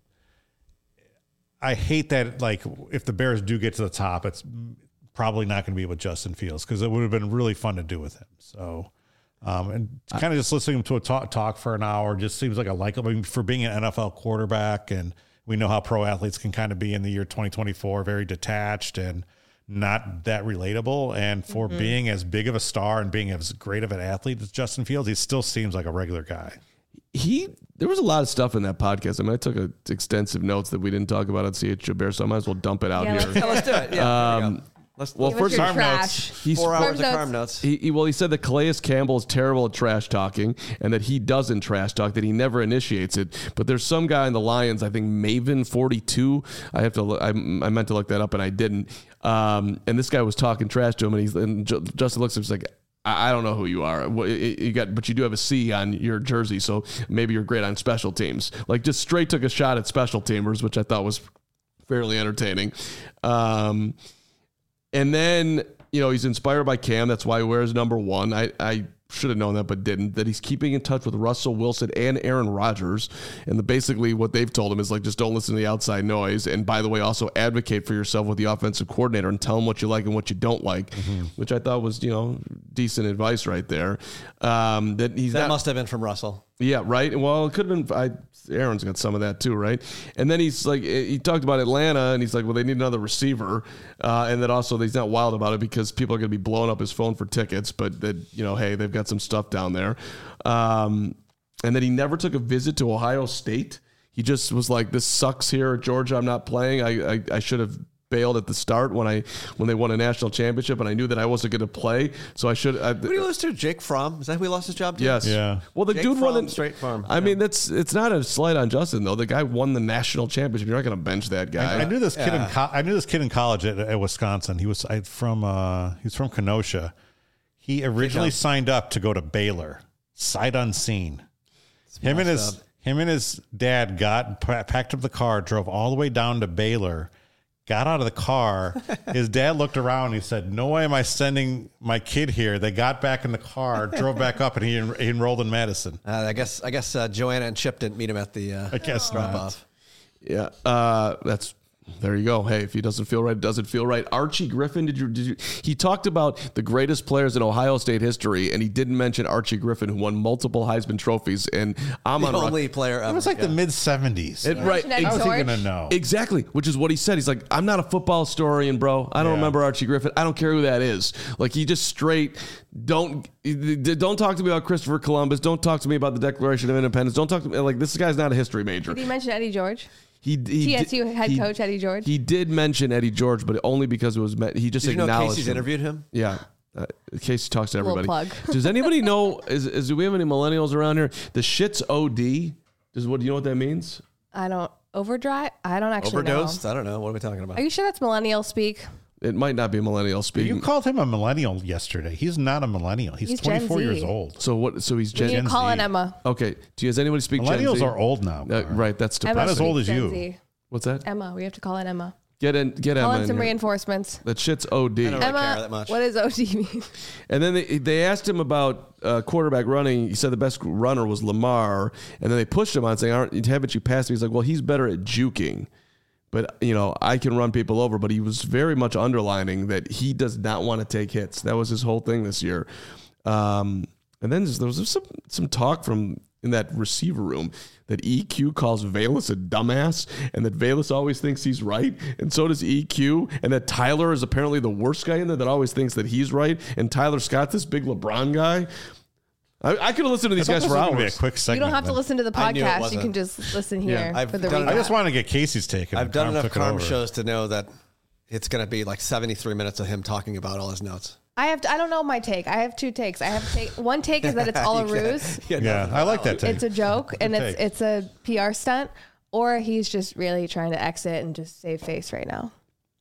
I hate that, like, if the Bears do get to the top, it's probably not going to be with Justin Fields, because it would have been really fun to do with him. So, and kind of just listening to a talk for an hour just seems like a likable, I mean, for being an NFL quarterback. And we know how pro athletes can kind of be in the year 2024, very detached and not that relatable. And for being as big of a star and being as great of an athlete as Justin Fields, he still seems like a regular guy. There was a lot of stuff in that podcast. I mean, I took extensive notes that we didn't talk about at CHGO Bears, so I might as well dump it out here. Let's do it. Yeah. First Carm notes. 4 hours of Carm notes. He said that Calais Campbell is terrible at trash talking, and that he doesn't trash talk, that he never initiates it. But there's some guy in the Lions, I think Maven42. I meant to look that up and I didn't. And this guy was talking trash to him, and Justin looks at him, he's like, I don't know who you are. But you do have a C on your jersey, so maybe you're great on special teams. Like, just straight took a shot at special teamers, which I thought was fairly entertaining. And then, he's inspired by Cam. That's why he wears number 1. I should have known that, but didn't. That he's keeping in touch with Russell Wilson and Aaron Rodgers. And basically what they've told him is, like, just don't listen to the outside noise. And by the way, also advocate for yourself with the offensive coordinator and tell him what you like and what you don't like, which I thought was, decent advice right there. That must have been from Russell. Yeah, right. Well, it could have been. Aaron's got some of that too, right? And then he's like, he talked about Atlanta, and he's like, well, they need another receiver, and then also he's not wild about it because people are going to be blowing up his phone for tickets, but that hey, they've got some stuff down there, and then he never took a visit to Ohio State. He just was like, this sucks here at Georgia. I'm not playing. I should have bailed at the start when they won a national championship, and I knew that I wasn't going to play, so I should. Who did he lose to? Jake Fromm? Is that who he lost his job to? Yes. Yeah. Well, the Jake dude Fromm, won the Straight Farm. I mean, it's not a slight on Justin though. The guy won the national championship. You're not going to bench that guy. I knew this kid. I knew this kid in college at Wisconsin. He was from Kenosha. He originally signed up to go to Baylor, sight unseen. Him and his dad packed up the car, drove all the way down to Baylor, got out of the car. His dad looked around and he said, "No way am I sending my kid here." They got back in the car, drove back up, and he enrolled in Madison. I guess Joanna and Chip didn't meet him at the I guess drop not. off. Yeah, there you go. Hey, if he doesn't feel right, it doesn't feel right. Archie Griffin, did you? He talked about the greatest players in Ohio State history, and he didn't mention Archie Griffin, who won multiple Heisman trophies. And I'm The on only player ever. It was like the mid 70s. right. Eddie How was he George? going to know? Exactly, which is what he said. He's like, I'm not a football historian, bro. I don't Yeah. remember Archie Griffin. I don't care who that is. Like, he just straight don't talk to me about Christopher Columbus. Don't talk to me about the Declaration of Independence. Don't talk to me like this guy's not a history major. Did he mention Eddie George? TSU head coach Eddie George? He did mention Eddie George, but only because it was he just Did you know acknowledged Casey's him. interviewed him? Yeah. Casey talks to Little everybody. plug. Does anybody know? Do we have any millennials around here? The shit's OD. Do you know what that means? I don't overdrive. I don't actually Overdosed? know. I don't know. What are we talking about? Are you sure that's millennial speak? It might not be millennial speaking. You called him a millennial yesterday. He's not a millennial. He's He's Gen 24 years Z. old. So what? So he's You Gen. need to call Z. in Emma. Okay. Does anybody speak Gen Millennials Z? are old now. Right. That's Emma depressing. Not as old as speaks you. Gen Z. What's that? Emma. We have to call in Emma. Get Call Emma in in some here. reinforcements. That shit's OD. don't really care Emma, that much. what does OD mean? And then they asked him about quarterback running. He said the best runner was Lamar. And then they pushed him on saying, haven't you passed me? He's like, well, he's better at juking. But, I can run people over. But he was very much underlining that he does not want to take hits. That was his whole thing this year. And then there was some talk from in that receiver room that EQ calls Valus a dumbass and that Valus always thinks he's right. And so does EQ. And that Tyler is apparently the worst guy in there that always thinks that he's right. And Tyler Scott, this big LeBron guy. I could have listened to these guys for Be a You quick hours. segment. don't have to then. listen to the I knew it podcast. You wasn't. can just listen here I've for the done it. recap. I just want to get Casey's take. and I've done Tom enough took it Carm over. shows to know that it's going to be like 73 minutes of him talking about all his notes. I don't know my take. I have two takes. One take is that it's all a ruse. Yeah, I like that take. It's a joke and take. it's a PR stunt, or he's just really trying to exit and just save face right now.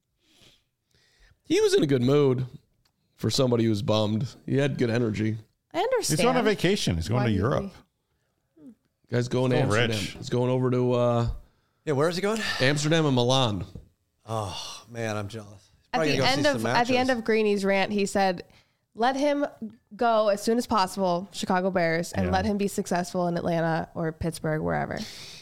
He was in a good mood for somebody who was bummed. He had good energy. I understand. He's on a vacation. He's going Why to do you Europe. think? Guy's going to Oh, Amsterdam. rich. He's going over to Yeah, where is he going? Amsterdam and Milan. Oh, man, I'm jealous. At the end of Greeny's rant, he said, "Let him go as soon as possible, Chicago Bears, and Yeah. let him be successful in Atlanta or Pittsburgh, wherever."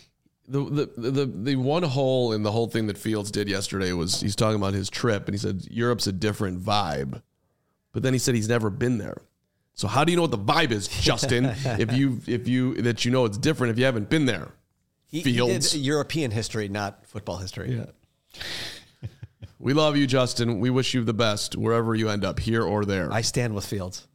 The one hole in the whole thing that Fields did yesterday was he's talking about his trip and he said Europe's a different vibe, but then he said he's never been there. So how do you know what the vibe is, Justin? if you it's different if you haven't been there. He Fields. did European history, not football history. Yeah. We love you, Justin. We wish you the best wherever you end up, here or there. I stand with Fields.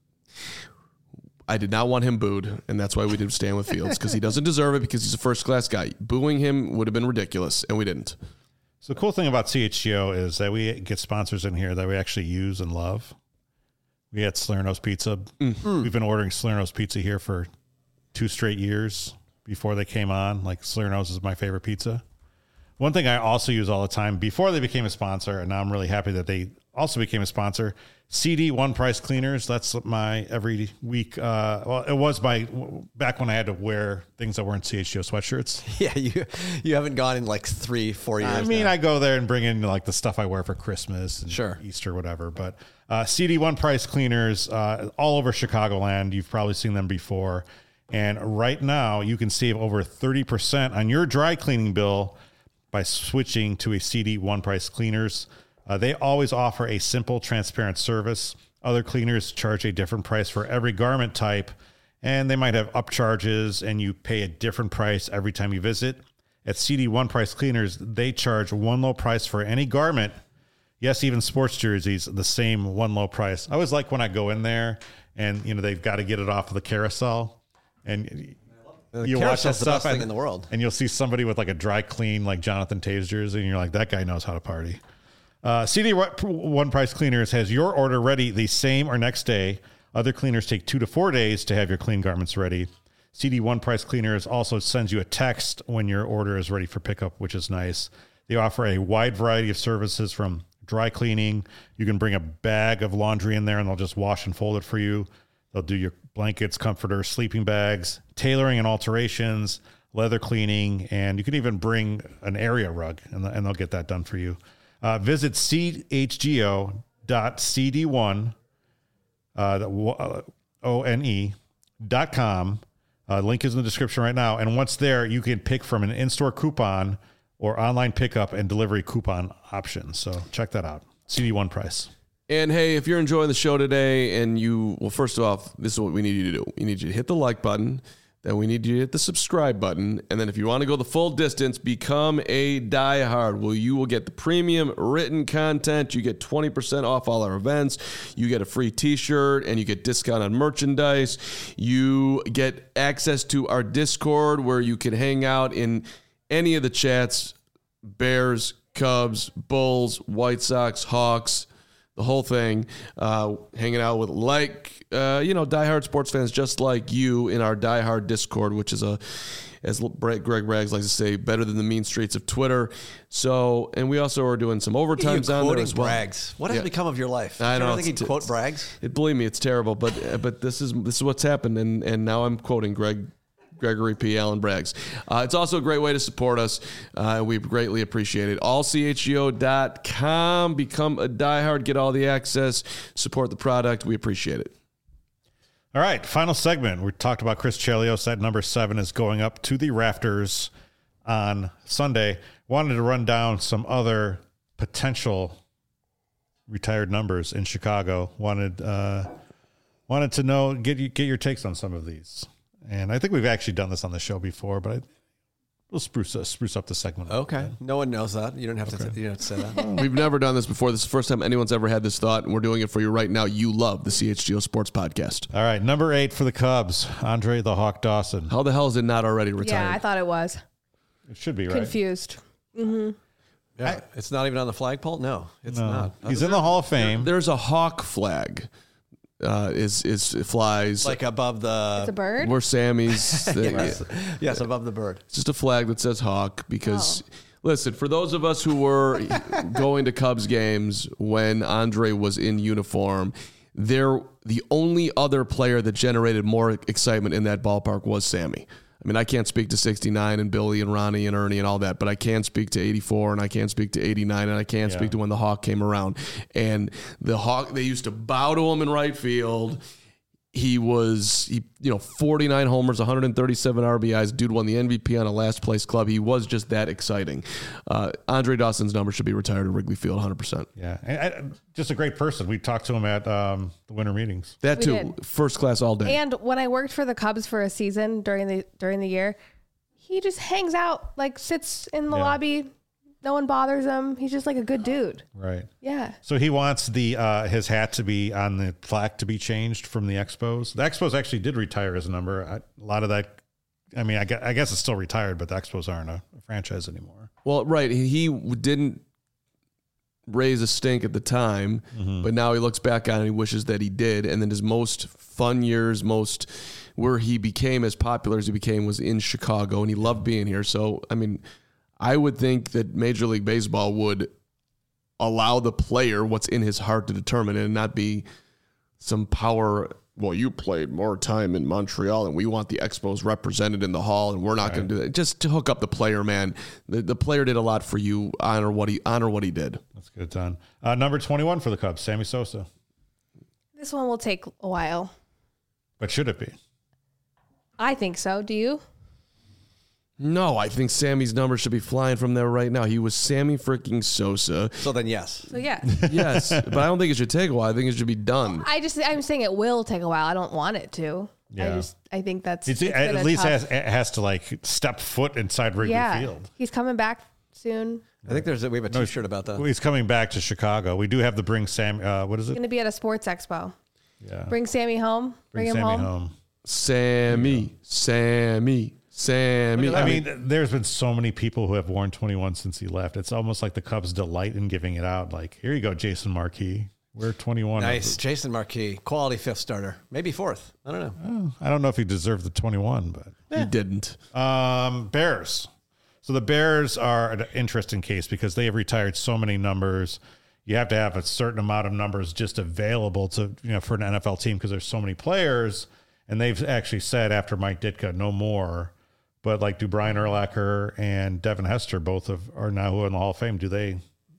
I did not want him booed, and that's why we did stand with Fields, because he doesn't deserve it because he's a first-class guy. Booing him would have been ridiculous, and we didn't. So the cool thing about CHGO is that we get sponsors in here that we actually use and love. We had Salerno's Pizza. We've been ordering Salerno's Pizza here for 2 straight years before they came on. Like, Salerno's is my favorite pizza. One thing I also use all the time before they became a sponsor, and now I'm really happy that they also became a sponsor, CD One Price Cleaners. That's my every week. Well, it was my back when I had to wear things that weren't CHGO sweatshirts. Yeah, you haven't gone in like 3-4 years. I mean, now. I go there and bring in like the stuff I wear for Christmas and Sure. Easter, whatever. But CD One Price Cleaners all over Chicagoland. You've probably seen them before. And right now, you can save over 30% on your dry cleaning bill by switching to a CD One Price Cleaners. They always offer a simple, transparent service. Other cleaners charge a different price for every garment type, and they might have upcharges, and you pay a different price every time you visit. At CD One Price Cleaners, they charge one low price for any garment. Yes, even sports jerseys, the same one low price. I always like when I go in there and they've got to get it off of the carousel, and you watch that Carousel's the best stuff thing in the world. and you'll see somebody with like a dry clean like Jonathan Taves jersey, and you're like, that guy knows how to party. CD One Price Cleaners has your order ready the same or next day. Other cleaners take 2 to 4 days to have your clean garments ready. CD One Price Cleaners also sends you a text when your order is ready for pickup, which is nice. They offer a wide variety of services from dry cleaning. You can bring a bag of laundry in there and they'll just wash and fold it for you. They'll do your blankets, comforters, sleeping bags, tailoring and alterations, leather cleaning, and you can even bring an area rug and they'll get that done for you. Visit chgo.cd1, one.com. Link is in the description right now. And once there, you can pick from an in-store coupon or online pickup and delivery coupon options. So check that out. CD1 price. And hey, if you're enjoying the show today and first off, this is what we need you to do. We need you to hit the like button. Then we need you to hit the subscribe button. And then if you want to go the full distance, become a diehard. You will get the premium written content. You get 20% off all our events. You get a free t-shirt and you get discount on merchandise. You get access to our Discord where you can hang out in any of the chats, Bears, Cubs, Bulls, White Sox, Hawks, the whole thing, hanging out with diehard sports fans just like you in our diehard Discord, which is as Greg Braggs likes to say, better than the mean streets of Twitter. So, and we also are doing some overtimes on there as well. Braggs. What has become of your life? I don't think he'd quote Braggs. Believe me, it's terrible, but this is what's happened, and now I'm quoting Gregory P. Allen Braggs. It's also a great way to support us. We greatly appreciate it. AllCHGO.com. Become a diehard. Get all the access. Support the product. We appreciate it. All right, final segment. We talked about Chris Chelios. That number 7 is going up to the rafters on Sunday. Wanted to run down some other potential retired numbers in Chicago. Wanted to know, get your takes on some of these. And I think we've actually done this on the show before, but we'll spruce up the segment. Okay. No one knows that. You don't have to say that. We've never done this before. This is the first time anyone's ever had this thought, and we're doing it for you right now. You love the CHGO Sports Podcast. All right. Number 8 for the Cubs, Andre the Hawk Dawson. How the hell is it not already retired? Yeah, I thought it was. It should be, right? Confused. Mm-hmm. Yeah. It's not even on the flagpole? No, it's not. He's in the Hall of Fame. There's a Hawk flag. It flies like above the. It's a bird. Where Sammy's. Yes, above the bird. It's just a flag that says Hawk because, listen, for those of us who were going to Cubs games when Andre was in uniform, the only other player that generated more excitement in that ballpark was Sammy. I mean, I can't speak to 69 and Billy and Ronnie and Ernie and all that, but I can speak to 84 and I can speak to 89 and I can speak to when the Hawk came around. And the Hawk, they used to bow to him in right field. He 49 homers, 137 RBIs. Dude won the MVP on a last place club. He was just that exciting. Andre Dawson's number should be retired at Wrigley Field, 100%. Yeah, and just a great person. We talked to him at the winter meetings. That too, first class all day. And when I worked for the Cubs for a season during the year, he just hangs out, like sits in the lobby. No one bothers him. He's just like a good dude. Right. Yeah. So he wants his hat to be on the plaque to be changed from the Expos. The Expos actually did retire his number. A lot of that, I mean, I guess it's still retired, but the Expos aren't a franchise anymore. Well, right. He didn't raise a stink at the time, but now he looks back on it and he wishes that he did. And then his most fun years, where he became as popular as he became was in Chicago, and he loved being here. So, I mean, I would think that Major League Baseball would allow the player what's in his heart to determine it and not be some power. Well, you played more time in Montreal and we want the Expos represented in the Hall and we're not going to do that. Just to hook up the player, man. The player did a lot for you. Honor what he did. That's good, Don. Number 21 for the Cubs, Sammy Sosa. This one will take a while. But should it be? I think so. Do you? No, I think Sammy's number should be flying from there right now. He was Sammy freaking Sosa. So then, yes. So yeah. Yes, but I don't think it should take a while. I think it should be done. I'm saying it will take a while. I don't want it to. Yeah. I think that's It at least has to like step foot inside Wrigley Field. He's coming back soon. I think we have a T-shirt about that. He's coming back to Chicago. We do have the Bring Sam. What is it? Going to be at a sports expo. Yeah. Bring Sammy home. Bring him Sammy home. Sammy. I mean, there's been so many people who have worn 21 since he left. It's almost like the Cubs delight in giving it out. Like, here you go, Jason Marquis. We're 21. Nice. Jason Marquis. Quality fifth starter. Maybe fourth. I don't know. I don't know if he deserved the 21, but He didn't. Bears. So the Bears are an interesting case because they have retired so many numbers. You have to have a certain amount of numbers just available to, for an NFL team because there's so many players. And they've actually said after Mike Ditka, no more. But like, do Brian Urlacher and Devin Hester both are now in the Hall of Fame? Do they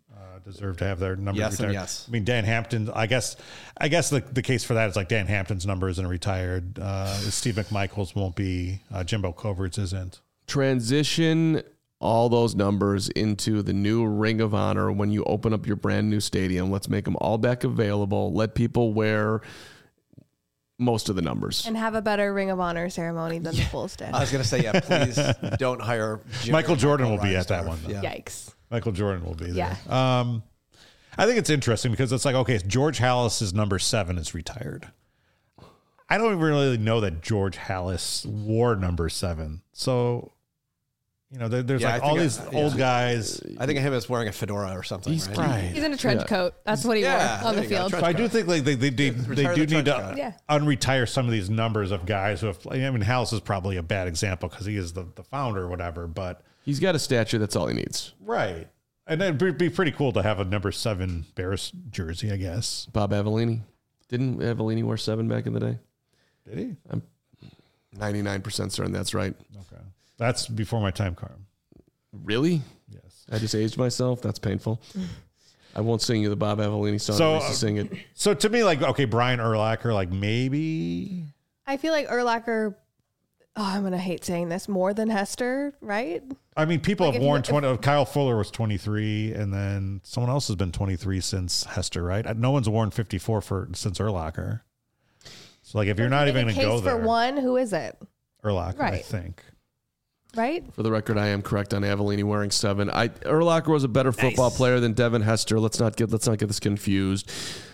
deserve to have their numbers Yes and retired. yes. I mean, Dan Hampton, I guess the case for that is like Dan Hampton's number isn't retired. Steve McMichaels won't be. Jimbo Coverts isn't. Transition all those numbers into the new Ring of Honor when you open up your brand new stadium. Let's make them all back available. Let people wear most of the numbers. And have a better Ring of Honor ceremony than the Bulls did. I was going to say, yeah, please don't hire Michael Jordan will be at that one, though. Yeah. Yikes. Michael Jordan will be there. Yeah. I think it's interesting because it's like, okay, George Halas's number 7 is retired. I don't really know that George Halas wore number 7. So, there's Yeah, like I all think these old guys. I think of him as wearing a fedora or something. He's right? He's in a trench coat. That's what he Yeah, wore on there the you go, field. trench So I do think like they Retire do the need trench to coat. Yeah. unretire some of these numbers of guys who have. I mean, Halas is probably a bad example because he is the founder or whatever. But He's got a statue. That's all he needs. right, and it'd be pretty cool to have a number 7 Bears jersey, I guess. Bob Avellini. Didn't Avellini wear 7 back in the day? Did he? 99% certain that's right. Okay, that's before my time, Carm. Really? Yes. I just aged myself. That's painful. I won't sing you the Bob Avellini song. So, I used to sing it. So to me, like, okay, Brian Urlacher, like maybe. I feel like Urlacher, I'm going to hate saying this, more than Hester, right? I mean, people Like have if you- worn if- 20. Kyle Fuller was 23, and then someone else has been 23 since Hester, right? No one's worn 54 since Urlacher. So, like, if you're not even going to go for there, one, who is it? Urlacher, I Right. think. Right? For the record, I am correct on Avellini wearing 7. Urlacher was a better football player than Devin Hester. Let's not get this confused.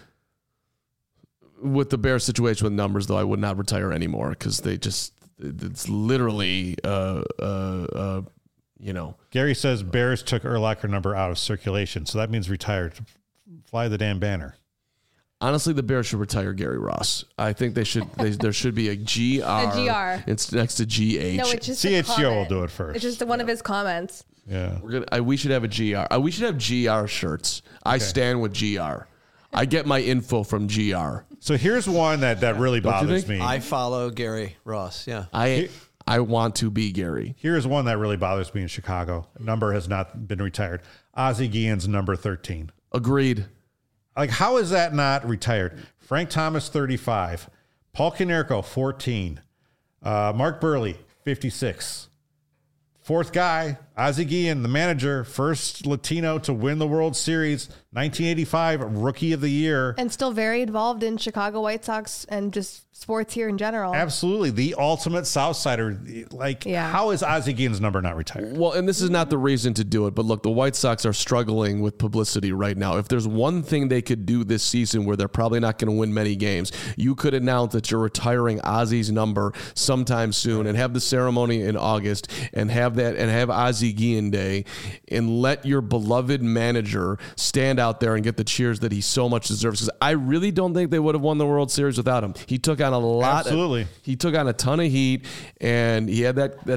With the Bears situation with numbers, though, I would not retire anymore because it's literally Gary says Bears took Urlacher number out of circulation, so that means retired. Fly the damn banner. Honestly, the Bears should retire Gary Ross. I think they should. There should be a GR. A GR. It's next to GH. No, it's just a CHGO will comment. do it first. It's just one of his comments. Yeah. We should have a GR. We should have GR shirts. I stand with GR. I get my info from GR. So here's one that really Don't you bothers think? me. I follow Gary Ross. Yeah. I want to be Gary. Here's one that really bothers me in Chicago. Number has not been retired. Ozzie Guillen's number 13. Agreed. Like, how is that not retired? Frank Thomas, 35. Paul Konerko, 14. Mark Burley, 56. Fourth guy, Ozzie Guillen, the manager, first Latino to win the World Series, 1985, Rookie of the Year. And still very involved in Chicago White Sox and just sports here in general. Absolutely. The ultimate Southsider. Like, Yeah. how is Ozzie Guillen's number not retired? Well, and this is not the reason to do it, but look, the White Sox are struggling with publicity right now. If there's one thing they could do this season where they're probably not going to win many games, you could announce that you're retiring Ozzie's number sometime soon and have the ceremony in August and have Ozzie Guillen Day and let your beloved manager stand out there and get the cheers that he so much deserves. Because I really don't think they would have won the World Series without him. He took on a lot. Absolutely. He took on a ton of heat, and he had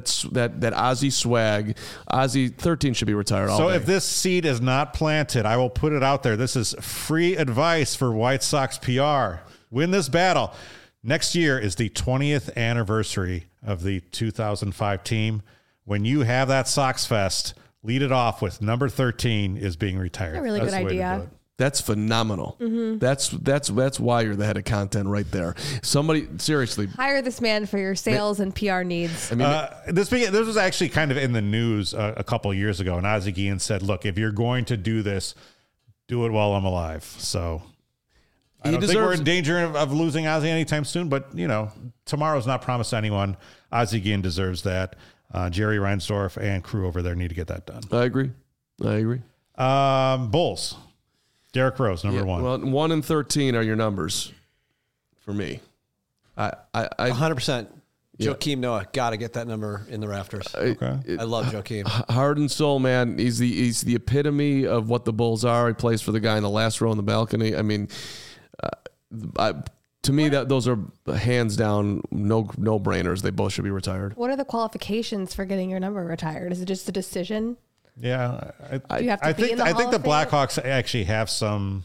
that Ozzie swag. Ozzie 13 should be retired. So if this seed is not planted, I will put it out there. This is free advice for White Sox PR. Win this battle. Next year is the 20th anniversary of the 2005 team. When you have that Sox Fest, lead it off with number 13 is being retired. A really That's good the way to do idea. it. That's phenomenal. That's why you're the head of content right there. Somebody seriously. Hire this man for your sales and PR needs. I mean, This was actually kind of in the news a couple years ago, and Ozzie Guillen said, "Look, if you're going to do this, do it while I'm alive." So I don't think we're in danger of losing Ozzie anytime soon, but tomorrow's not promised to anyone. Ozzie Guillen deserves that. Jerry Reinsdorf and crew over there need to get that done. I agree. Bulls. Derrick Rose, number 1. Well, 1 and 13 are your numbers for me. I 100%. Joakim Noah, got to get that number in the rafters. Okay. I love Joakim. Heart and soul, man. He's the epitome of what the Bulls are. He plays for the guy in the last row in the balcony. I mean, to me, that those are hands down no brainers. They both should be retired. What are the qualifications for getting your number retired? Is it just a decision? Yeah, Do you have to be in the I Hall think the of Fame? Blackhawks actually have some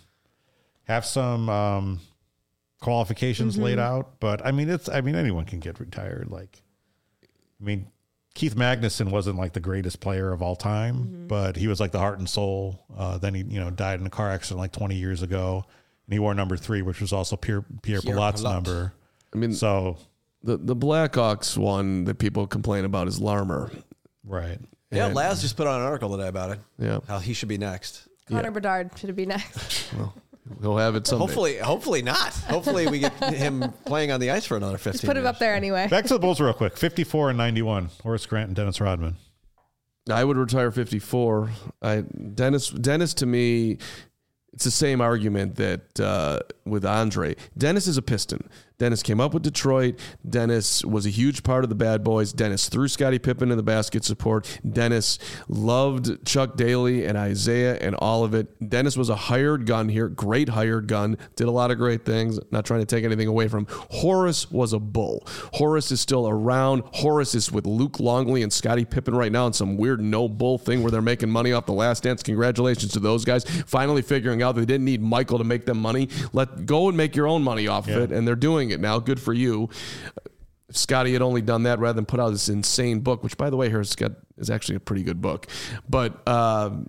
qualifications laid out, but I mean anyone can get retired. Keith Magnuson wasn't like the greatest player of all time, but he was like the heart and soul. Then he, died in a car accident like 20 years ago, and he wore number 3, which was also Pierre Pillot's number. I mean, so the Blackhawks one that people complain about is Larmer. right. Yeah, And- Laz just put out an article today about it. Yeah. How he should be next. Connor Bedard should be next. He'll have it someday. Hopefully not. Hopefully we get him playing on the ice for another 15 Just put him years. up there anyway. Back to the Bulls real quick. 54 and 91. Horace Grant and Dennis Rodman. I would retire 54. Dennis to me, it's the same argument that with Andre. Dennis is a Piston. Dennis came up with Detroit. Dennis was a huge part of the Bad Boys. Dennis threw Scottie Pippen in the basket support. Dennis loved Chuck Daly and Isaiah and all of it. Dennis was a hired gun here, great hired gun, did a lot of great things, not trying to take anything away from him. Horace was a bull. Horace is still around. Horace is with Luke Longley and Scottie Pippen right now in some weird no bull thing where they're making money off The Last Dance. Congratulations to those guys. Finally figuring out that they didn't need Michael to make them money. Go and make your own money off of it, and they're doing it now. Good for you. If Scotty had only done that rather than put out this insane book, which, by the way, is actually a pretty good book. But I'm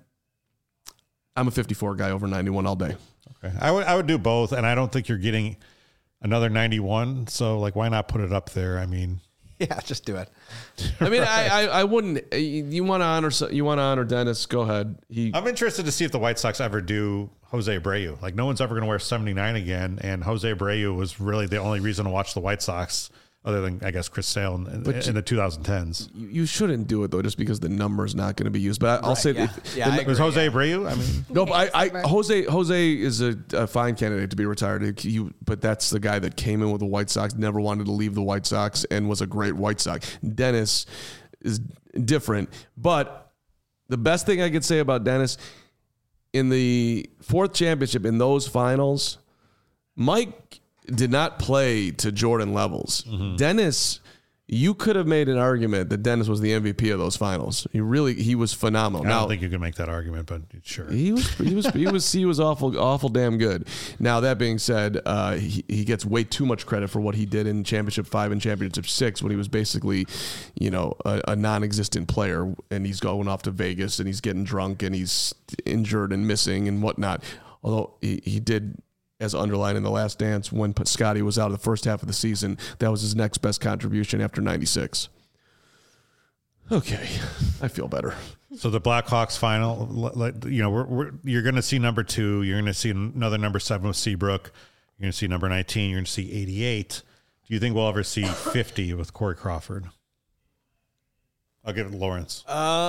a 54 guy over 91 all day. Okay. I would do both, and I don't think you're getting another 91. So, why not put it up there? I mean, Yeah, just do it. I mean, I wouldn't. You want to honor Dennis? Go ahead. I'm interested to see if the White Sox ever do Jose Abreu. No one's ever going to wear 79 again, and Jose Abreu was really the only reason to watch the White Sox, other than I guess Chris Sale in the 2010s. You shouldn't do it though, just because the number's not going to be used. But I'll say, I Was agree, Jose Abreu? I mean, no, but Jose is a fine candidate to be retired. But that's the guy that came in with the White Sox, never wanted to leave the White Sox, and was a great White Sox. Dennis is different, but the best thing I could say about Dennis in the 4th championship in those finals, Mike did not play to Jordan levels. Dennis, you could have made an argument that Dennis was the MVP of those finals. He was phenomenal. I don't think you can make that argument, but sure. He was awful damn good. Now that being said, he gets way too much credit for what he did in Championship 5 and Championship 6 when he was basically, a non-existent player, and he's going off to Vegas and he's getting drunk and he's injured and missing and whatnot. Although he did, as underlined in The Last Dance, when Scotty was out of the first half of the season, that was his next best contribution after 96. Okay, I feel better. So the Blackhawks final, you're going to see number 2. You're going to see another number 7 with Seabrook. You're going to see number 19. You're going to see 88. Do you think we'll ever see 50 with Corey Crawford? I'll give it to Lawrence.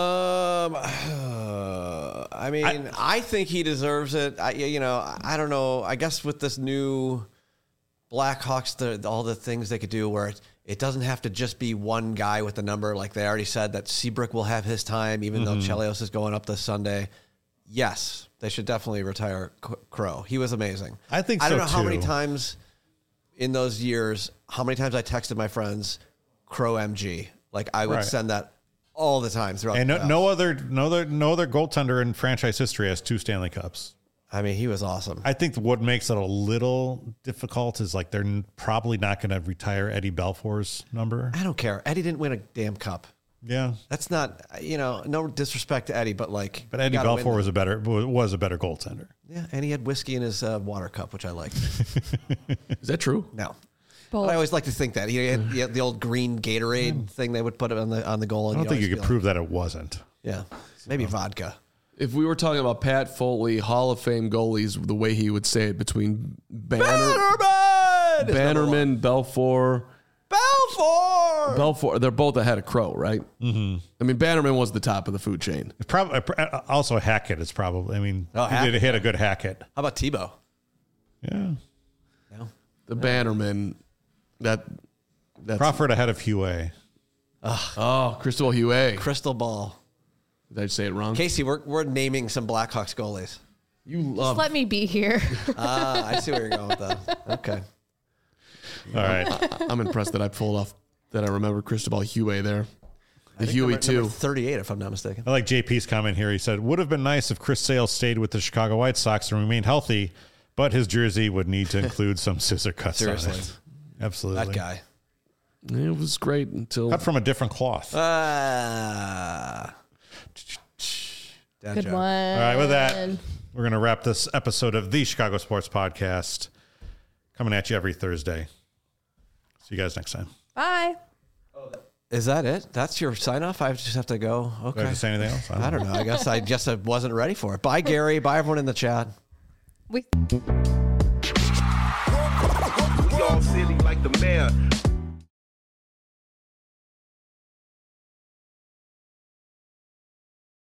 I think he deserves it. I don't know. I guess with this new Blackhawks, all the things they could do where it doesn't have to just be one guy with the number. Like they already said that Seabrook will have his time, even though Chelios is going up this Sunday. Yes, they should definitely retire Crow. He was amazing. I think so, I don't know how too. many times in those years, how many times I texted my friends, Crow MG. Like I would send that all the time throughout. And the no other goaltender in franchise history has 2 Stanley Cups. I mean, he was awesome. I think what makes it a little difficult is they're probably not going to retire Eddie Belfour's number. I don't care. Eddie didn't win a damn cup. Yeah, That's not, no disrespect to Eddie, but but Eddie Belfour was a better goaltender. Yeah, and he had whiskey in his water cup, which I liked. Is that true? No. Both. But I always like to think that he had the old green Gatorade thing they would put on the goal. I don't think you could prove that it wasn't. Yeah, maybe vodka. If we were talking about Pat Foley, Hall of Fame goalies, the way he would say it between Bannerman, Belfour, they're both ahead of Crow, right? Mm-hmm. I mean, Bannerman was the top of the food chain. Probably also Hackett is probably. I mean, he did hit a good Hackett. How about Tebow? Yeah, No. The Bannerman, that's Crawford ahead of Huey. Cristobal Huey. Crystal ball. Did I say it wrong? Casey, we're naming some Blackhawks goalies. You Just love. let me be here. I see where you're going with that. Okay. All right. I'm impressed that I pulled off that I remember Cristobal Huey there. The Huey number too. 38, if I'm not mistaken. I like JP's comment here. He said, would have been nice if Chris Sale stayed with the Chicago White Sox and remained healthy, but his jersey would need to include some scissor cuts Seriously. on it. Absolutely. That guy. It was great until Cut from a different cloth. Dad Good joke. one. All right, with that, we're going to wrap this episode of the Chicago Sports Podcast. Coming at you every Thursday. See you guys next time. Bye. Is that it? That's your sign off? I just have to go. Do I Okay. have to say anything else? I don't know. I guess I just wasn't ready for it. Bye, Gary. Bye, everyone in the chat. We We all silly like the mayor.